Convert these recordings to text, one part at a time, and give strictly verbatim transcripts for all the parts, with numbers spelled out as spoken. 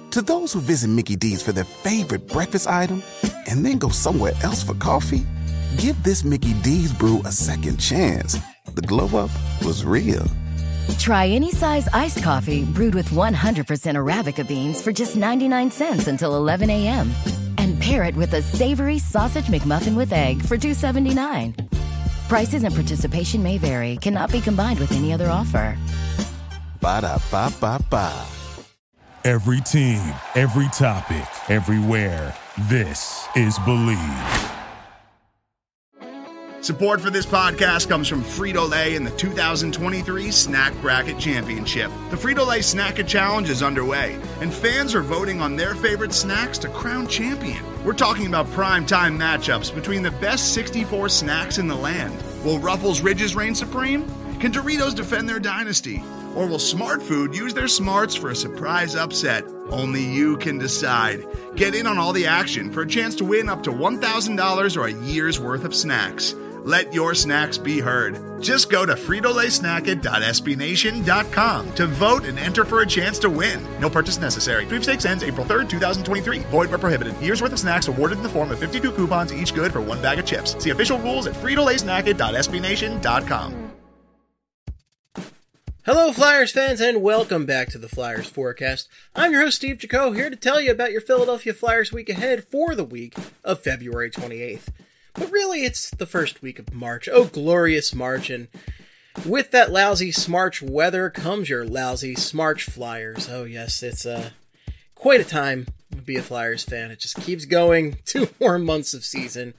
To those who visit Mickey D's for their favorite breakfast item and then go somewhere else for coffee, give this Mickey D's brew a second chance. The glow-up was real. Try any size iced coffee brewed with one hundred percent Arabica beans for just ninety-nine cents until eleven a.m. And pair it with a savory sausage McMuffin with egg for two seventy-nine. Prices and participation may vary. Cannot be combined with any other offer. Ba-da-ba-ba-ba. Every team, every topic, everywhere. This is Believe. Support for this podcast comes from Frito-Lay and the two thousand twenty-three Snack Bracket Championship. The Frito-Lay Snack-It Challenge is underway, and fans are voting on their favorite snacks to crown champion. We're talking about prime-time matchups between the best sixty-four snacks in the land. Will Ruffles Ridges reign supreme? Can Doritos defend their dynasty? Or will Smart Food use their smarts for a surprise upset? Only you can decide. Get in on all the action for a chance to win up to one thousand dollars or a year's worth of snacks. Let your snacks be heard. Just go to Frito Lay Snack It dot S B Nation dot com to vote and enter for a chance to win. No purchase necessary. Sweepstakes ends April third, twenty twenty-three. Void where prohibited. Year's worth of snacks awarded in the form of fifty-two coupons, each good for one bag of chips. See official rules at Frito Lay Snack It dot S B Nation dot com. Hello, Flyers fans, and welcome back to the Flyers Forecast. I'm your host, Steve Jaco, here to tell you about your Philadelphia Flyers week ahead for the week of February twenty-eighth. But really, it's the first week of March. Oh, glorious March, and with that lousy Smarch weather comes your lousy Smarch Flyers. Oh yes, it's uh, quite a time to be a Flyers fan. It just keeps going. Two more months of season.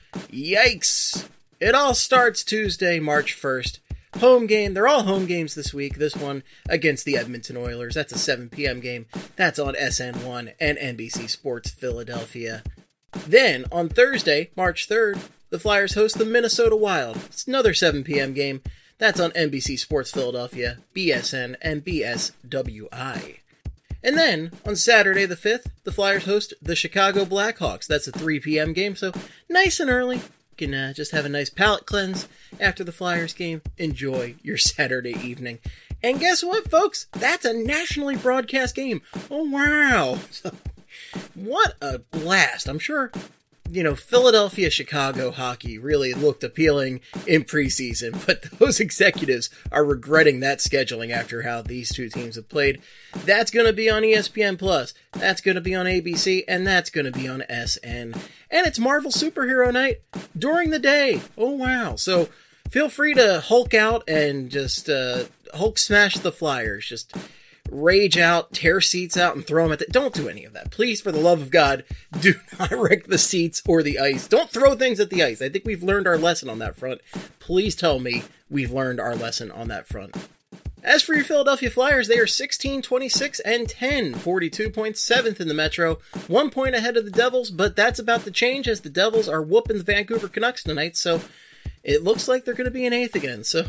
Yikes! It all starts Tuesday, March first. Home game. They're all home games this week. This one against the Edmonton Oilers. That's a seven p.m. game. That's on S N one and N B C Sports Philadelphia. Then, on Thursday, March third, the Flyers host the Minnesota Wild. It's another seven p.m. game. That's on N B C Sports Philadelphia, B S N, and B S W I. And then, on Saturday the fifth, the Flyers host the Chicago Blackhawks. That's a three p.m. game, so nice and early. You can uh, just have a nice palate cleanse after the Flyers game. Enjoy your Saturday evening. And guess what, folks? That's a nationally broadcast game. Oh, wow. So, what a blast. I'm sure, you know, Philadelphia-Chicago hockey really looked appealing in preseason, but those executives are regretting that scheduling after how these two teams have played. That's going to be on E S P N plus, that's going to be on A B C, and that's going to be on S N. And it's Marvel Superhero Night during the day. Oh, wow. So feel free to Hulk out and just uh, Hulk smash the Flyers. Just rage out, tear seats out, and throw them at the... Don't do any of that. Please, for the love of God, do not wreck the seats or the ice. Don't throw things at the ice. I think we've learned our lesson on that front. Please tell me we've learned our lesson on that front. As for your Philadelphia Flyers, they are sixteen, twenty-six, and ten, forty-two points, seventh in the Metro, one point ahead of the Devils, but that's about to change as the Devils are whooping the Vancouver Canucks tonight, so it looks like they're going to be in eighth again, so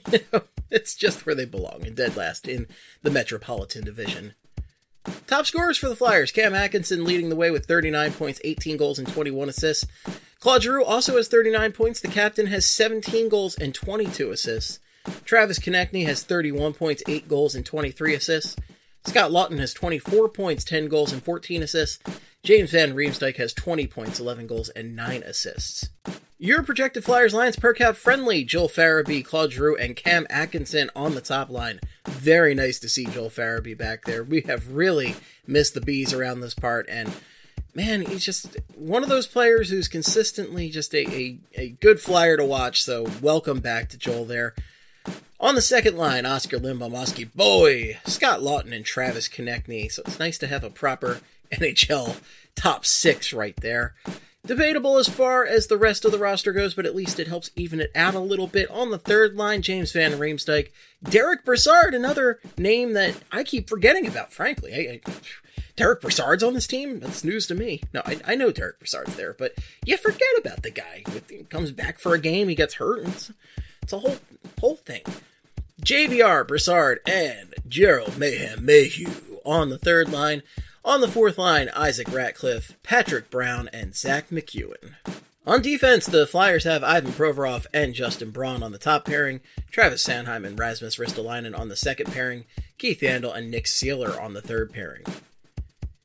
it's just where they belong, and dead last in the Metropolitan Division. Top scorers for the Flyers, Cam Atkinson leading the way with thirty-nine points, eighteen goals, and twenty-one assists. Claude Giroux also has thirty-nine points. The captain has seventeen goals and twenty-two assists. Travis Konechny has thirty-one points, eight goals, and twenty-three assists. Scott Laughton has twenty-four points, ten goals, and fourteen assists. James Van Riemsdyk has twenty points, eleven goals, and nine assists. Your projected Flyers lines per cap friendly: Joel Farabee, Claude Giroux, and Cam Atkinson on the top line. Very nice to see Joel Farabee back there. We have really missed the bees around this part, and man, he's just one of those players who's consistently just a, a, a good Flyer to watch, so welcome back to Joel there. On the second line, Oscar Lindblom, Oski Boy, Scott Laughton, and Travis Konechny. So it's nice to have a proper N H L top six right there. Debatable as far as the rest of the roster goes, but at least it helps even it out a little bit. On the third line, James Van Riemsdyk, Derek Brassard, another name that I keep forgetting about, frankly. I, I, Derek Brassard's on this team? That's news to me. No, I, I know Derek Brassard's there, but you forget about the guy. He comes back for a game, he gets hurt, and it's, it's a whole whole thing. J V R, Brassard, and Gerald Mayhem Mayhew on the third line. On the fourth line, Isaac Ratcliffe, Patrick Brown, and Zach McEwen. On defense, the Flyers have Ivan Provorov and Justin Braun on the top pairing, Travis Sanheim and Rasmus Ristolainen on the second pairing, Keith Yandel and Nick Seeler on the third pairing.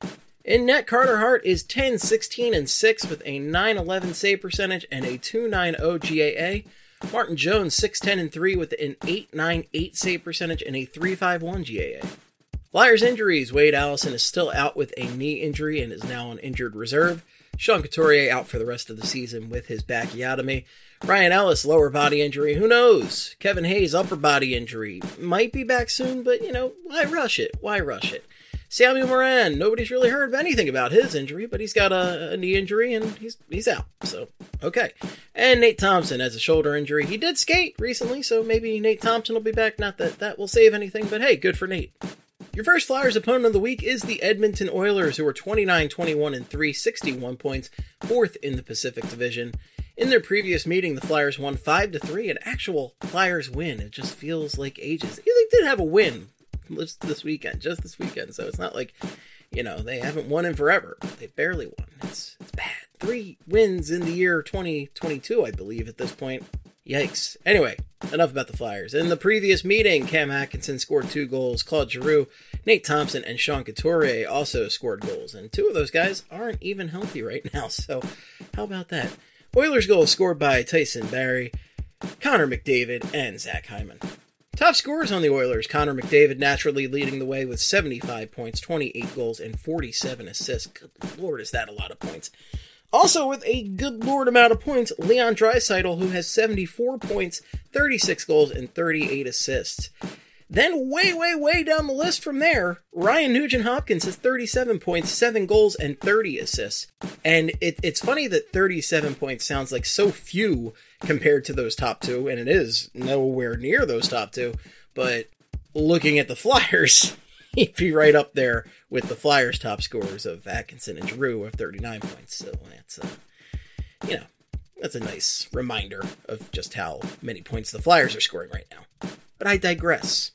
In net, Carter Hart is ten, sixteen, and six with a nine eleven save percentage and a two ninety G A A. Martin Jones, six ten and three with an eight ninety-eight save percentage and a three fifty-one G A A. Flyers injuries. Wade Allison is still out with a knee injury and is now on injured reserve. Sean Couturier out for the rest of the season with his backiotomy. Ryan Ellis, lower body injury. Who knows? Kevin Hayes, upper body injury. Might be back soon, but, you know, why rush it? Why rush it? Samuel Morin, nobody's really heard of anything about his injury, but he's got a, a knee injury and he's he's out. So, okay. And Nate Thompson has a shoulder injury. He did skate recently, so maybe Nate Thompson will be back. Not that that will save anything, but hey, good for Nate. Your first Flyers opponent of the week is the Edmonton Oilers, who are twenty-nine, twenty-one, and three, sixty-one points, fourth in the Pacific Division. In their previous meeting, the Flyers won five to three, an actual Flyers win. It just feels like ages. They did have a win this, this weekend, just this weekend, so it's not like, you know, they haven't won in forever. They barely won. It's, it's bad. Three wins in the year twenty twenty-two, I believe, at this point. Yikes. Anyway, enough about the Flyers. In the previous meeting, Cam Atkinson scored two goals. Claude Giroux, Nate Thompson, and Sean Couturier also scored goals. And two of those guys aren't even healthy right now, so how about that? Oilers goals scored by Tyson Barrie, Connor McDavid, and Zach Hyman. Top scorers on the Oilers, Connor McDavid naturally leading the way with seventy-five points, twenty-eight goals, and forty-seven assists. Good Lord, is that a lot of points. Also with a good Lord amount of points, Leon Draisaitl, who has seventy-four points, thirty-six goals, and thirty-eight assists. Then way, way, way down the list from there, Ryan Nugent-Hopkins has thirty-seven points, seven goals, and thirty assists. And it, it's funny that thirty-seven points sounds like so few compared to those top two, and it is nowhere near those top two. But looking at the Flyers, he'd be right up there with the Flyers' top scorers of Atkinson and Giroux of thirty-nine points. So that's, uh, you know, that's a nice reminder of just how many points the Flyers are scoring right now. But I digress.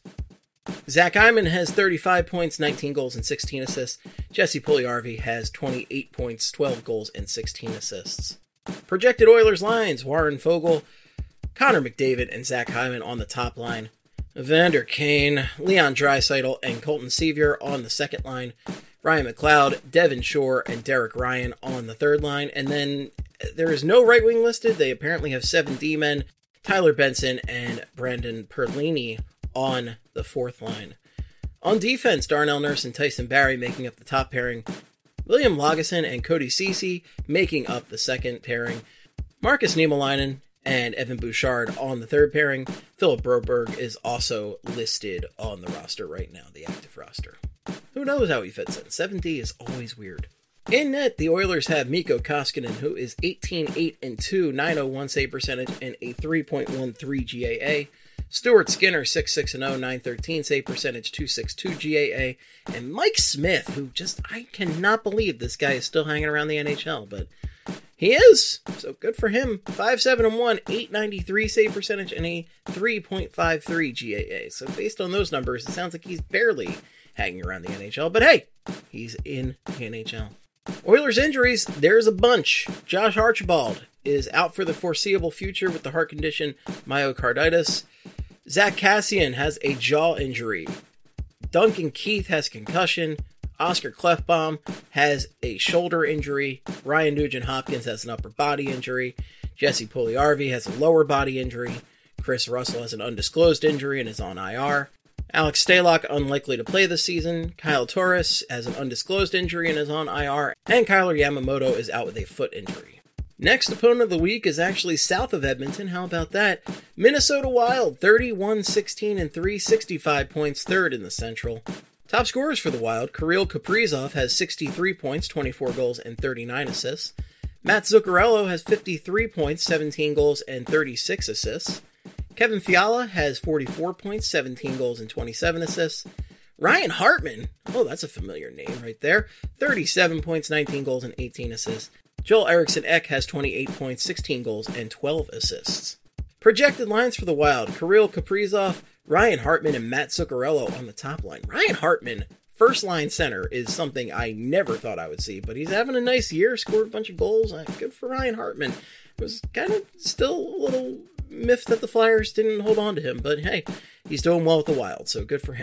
Zach Hyman has thirty-five points, nineteen goals, and sixteen assists. Jesse Puljujarvi has twenty-eight points, twelve goals, and sixteen assists. Projected Oilers lines, Warren Foegele, Connor McDavid, and Zach Hyman on the top line. Evander Kane, Leon Draisaitl, and Colton Sevier on the second line. Ryan McLeod, Devin Shore, and Derek Ryan on the third line. And then there is no right wing listed. They apparently have seven D-men. Tyler Benson and Brandon Perlini on the fourth line. On defense, Darnell Nurse and Tyson Barrie making up the top pairing. William Lagesson and Cody Ceci making up the second pairing. Marcus Niemelainen and Evan Bouchard on the third pairing. Philip Broberg is also listed on the roster right now, the active roster. Who knows how he fits in? seven D is always weird. In net, the Oilers have Mikko Koskinen, who is eighteen, eight, and two, nine oh one save percentage, and a three point one three G A A. Stuart Skinner, six six and oh, nine thirteen save percentage, two sixty-two G A A. And Mike Smith, who just, I cannot believe this guy is still hanging around the N H L, but he is, so good for him. five seven and one, eight ninety-three save percentage, and a three point five three G A A. So based on those numbers, it sounds like he's barely hanging around the N H L, but hey, he's in the N H L. Oilers injuries, there's a bunch. Josh Archibald is out for the foreseeable future with the heart condition myocarditis. Zach Kassian has a jaw injury. Duncan Keith has concussion. Oscar Klefbom has a shoulder injury. Ryan Nugent-Hopkins has an upper body injury. Jesse Puljujarvi has a lower body injury. Chris Russell has an undisclosed injury and is on I R. Alex Stalock unlikely to play this season. Kyle Torres has an undisclosed injury and is on I R. And Kyler Yamamoto is out with a foot injury. Next opponent of the week is actually south of Edmonton. How about that? Minnesota Wild, thirty-one, sixteen, and three, sixty-five points, third in the Central. Top scorers for the Wild, Kirill Kaprizov has sixty-three points, twenty-four goals, and thirty-nine assists. Matt Zuccarello has fifty-three points, seventeen goals, and thirty-six assists. Kevin Fiala has forty-four points, seventeen goals, and twenty-seven assists. Ryan Hartman, oh, that's a familiar name right there, thirty-seven points, nineteen goals, and eighteen assists. Joel Eriksson Ek has twenty-eight points, sixteen goals, and twelve assists. Projected lines for the Wild, Kirill Kaprizov, Ryan Hartman, and Matt Zuccarello on the top line. Ryan Hartman, first line center, is something I never thought I would see, but he's having a nice year, scored a bunch of goals. Good for Ryan Hartman. It was kind of still a little miffed that the Flyers didn't hold on to him, but hey, he's doing well with the Wild, so good for him.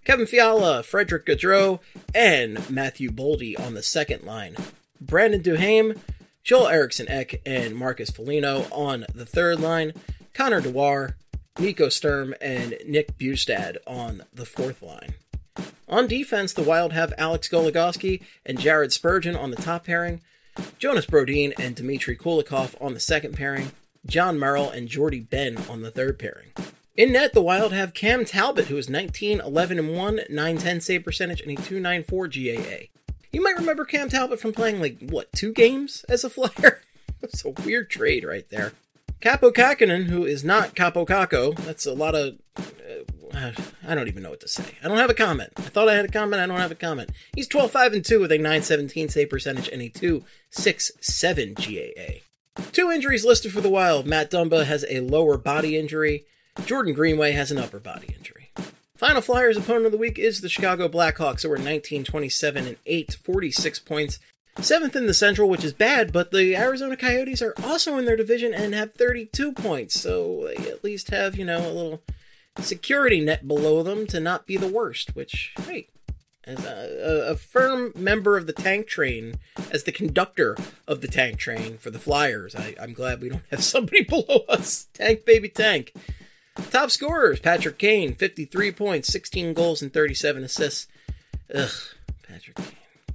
Kevin Fiala, Frederick Gaudreau, and Matthew Boldy on the second line. Brandon Duhaime, Joel Eriksson Ek, and Marcus Foligno on the third line. Connor Dewar, Nico Sturm, and Nick Bjugstad on the fourth line. On defense, the Wild have Alex Goligoski and Jared Spurgeon on the top pairing, Jonas Brodin and Dmitry Kulikov on the second pairing, John Merrill and Jordy Ben on the third pairing. In net, the Wild have Cam Talbot, who is nineteen, eleven, and one, nine ten save percentage, and a two ninety-four G A A. You might remember Cam Talbot from playing, like, what, two games as a Flyer? It's a weird trade right there. Kaapo Kähkönen, who is not Kaapo Kakko, that's a lot of... Uh, I don't even know what to say. I don't have a comment. I thought I had a comment, I don't have a comment. He's twelve, five, and two with a nine seventeen save percentage and a two sixty-seven G A A. Two injuries listed for the Wild. Matt Dumba has a lower body injury. Jordan Greenway has an upper body injury. Final Flyers opponent of the week is the Chicago Blackhawks, who are nineteen, twenty-seven, and eight, forty-six points. Seventh in the Central, which is bad, but the Arizona Coyotes are also in their division and have thirty-two points, so they at least have, you know, a little security net below them to not be the worst, which, hey, as a, a, a firm member of the tank train, as the conductor of the tank train for the Flyers, I, I'm glad we don't have somebody below us. Tank, baby, tank. Top scorers, Patrick Kane, fifty-three points, sixteen goals, and thirty-seven assists. Ugh, Patrick Kane.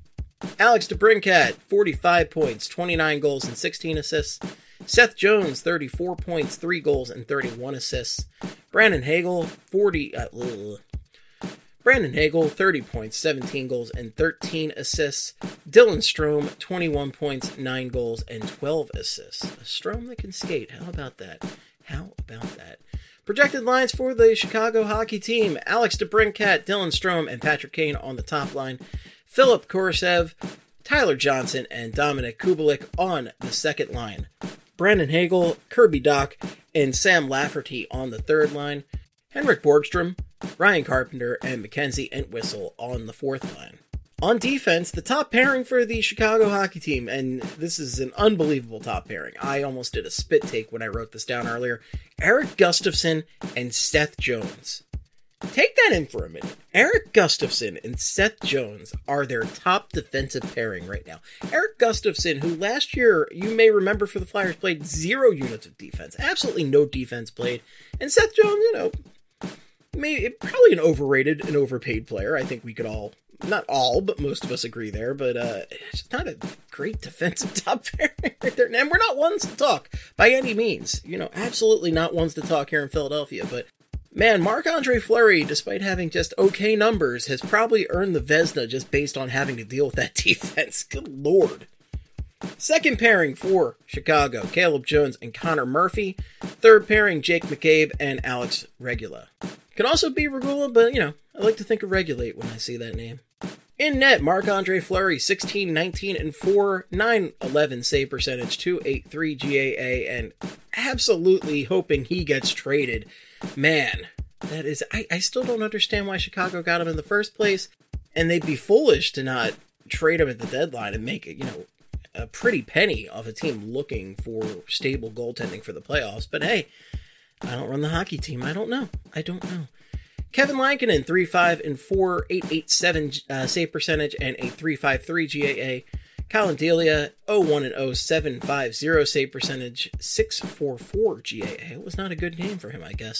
Alex DeBrincat, forty-five points, twenty-nine goals, and sixteen assists. Seth Jones, thirty-four points, three goals, and thirty-one assists. Brandon Hagel, forty... Uh, ugh. Brandon Hagel, thirty points, seventeen goals, and thirteen assists. Dylan Strome, twenty-one points, nine goals, and twelve assists. A Strome that can skate. How about that? How about that? Projected lines for the Chicago hockey team. Alex DeBrincat, Dylan Strome, and Patrick Kane on the top line. Philip Kurashev, Tyler Johnson, and Dominic Kubalik on the second line. Brandon Hagel, Kirby Dach, and Sam Lafferty on the third line. Henrik Borgstrom, Ryan Carpenter, and Mackenzie Entwistle on the fourth line. On defense, the top pairing for the Chicago hockey team, and this is an unbelievable top pairing. I almost did a spit take when I wrote this down earlier. Erik Gustafsson and Seth Jones. Take that in for a minute. Erik Gustafsson and Seth Jones are their top defensive pairing right now. Erik Gustafsson, who last year, you may remember for the Flyers, played zero units of defense. Absolutely no defense played. And Seth Jones, you know, maybe, probably an overrated and overpaid player. I think we could all, not all, but most of us agree there. But uh, it's not a great defensive top pairing right there. And we're not ones to talk by any means. You know, absolutely not ones to talk here in Philadelphia. But man, Marc-Andre Fleury, despite having just okay numbers, has probably earned the Vezina just based on having to deal with that defense. Good Lord. Second pairing for Chicago, Caleb Jones and Connor Murphy. Third pairing, Jake McCabe and Alex Regula. Can also be Regula, but, you know, I like to think of Regulate when I see that name. In net, Marc-Andre Fleury, sixteen, nineteen, and four, nine eleven save percentage, two eighty-three G A A, and absolutely hoping he gets traded. Man, that is, I, I still don't understand why Chicago got him in the first place, and they'd be foolish to not trade him at the deadline and make it, you know, a pretty penny of a team looking for stable goaltending for the playoffs. But hey, I don't run the hockey team. I don't know. I don't know. Kevin Lankinen, three five and four, eight eighty-seven uh, save percentage, and a three fifty-three G A A. Colin Delia, oh one and oh, seven fifty save percentage, six forty-four G A A. It was not a good game for him, I guess.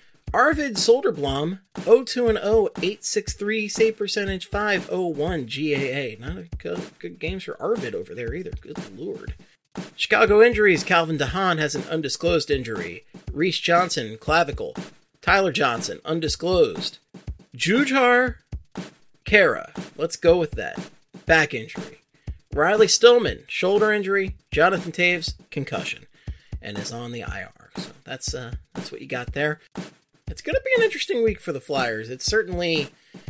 Arvid Soderblom, oh two and oh, eight sixty-three save percentage, five oh one G A A. Not a good, good games for Arvid over there either. Good Lord. Chicago injuries. Calvin DeHaan has an undisclosed injury. Reese Johnson, clavicle. Tyler Johnson, undisclosed. Jujhar Khaira, let's go with that. Back injury. Riley Stillman, shoulder injury. Jonathan Taves, concussion, and is on the I R. So that's uh, that's what you got there. It's going to be an interesting week for the Flyers. It's certainly,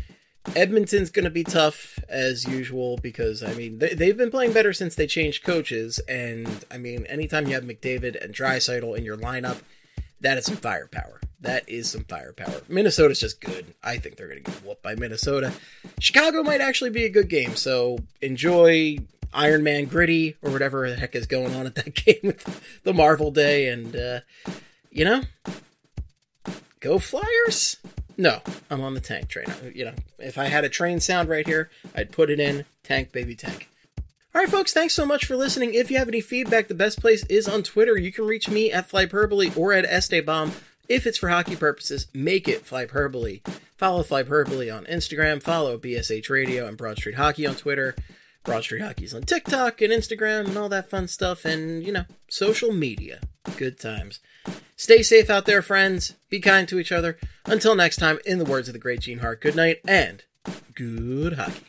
Edmonton's going to be tough as usual because, I mean, they, they've been playing better since they changed coaches. And, I mean, anytime you have McDavid and Draisaitl in your lineup, that is some firepower. That is some firepower. Minnesota's just good. I think they're going to get whooped by Minnesota. Chicago might actually be a good game, so enjoy Iron Man Gritty or whatever the heck is going on at that game with the Marvel Day. And, uh, you know, go Flyers. No, I'm on the tank train. You know, if I had a train sound right here, I'd put it in. Tank, baby, tank. All right, folks, thanks so much for listening. If you have any feedback, the best place is on Twitter. You can reach me at Flyperbole or at Estebomb. If it's for hockey purposes, make it Flyperbole. Follow Flyperbole on Instagram. Follow B S H Radio and Broad Street Hockey on Twitter. Broad Street Hockey's on TikTok and Instagram and all that fun stuff. And, you know, social media. Good times. Stay safe out there, friends. Be kind to each other. Until next time, in the words of the great Gene Hart, good night and good hockey.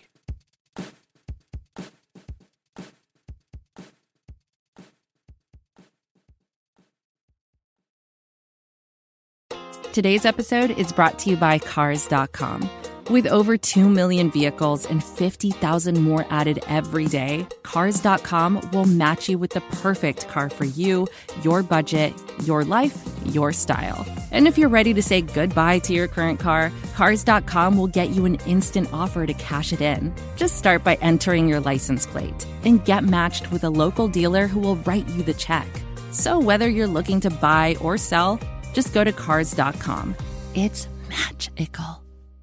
Today's episode is brought to you by Cars dot com. With over two million vehicles and fifty thousand more added every day, Cars dot com will match you with the perfect car for you, your budget, your life, your style. And if you're ready to say goodbye to your current car, Cars dot com will get you an instant offer to cash it in. Just start by entering your license plate and get matched with a local dealer who will write you the check. So whether you're looking to buy or sell, just go to Cars dot com. It's magical.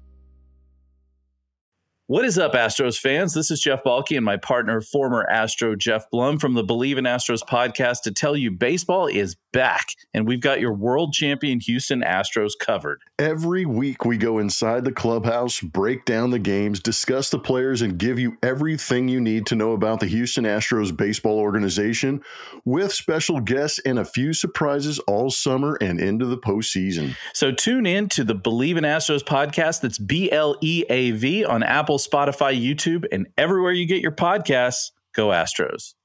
What is up, Astros fans? This is Jeff Balke and my partner, former Astro Jeff Blum from the Believe in Astros podcast to tell you baseball is back, and we've got your world champion Houston Astros covered. Every week we go inside the clubhouse, break down the games, discuss the players, and give you everything you need to know about the Houston Astros baseball organization with special guests and a few surprises all summer and into the postseason. So tune in to the Believe in Astros podcast. That's B L E A V on Apple, Spotify, YouTube, and everywhere you get your podcasts. Go Astros.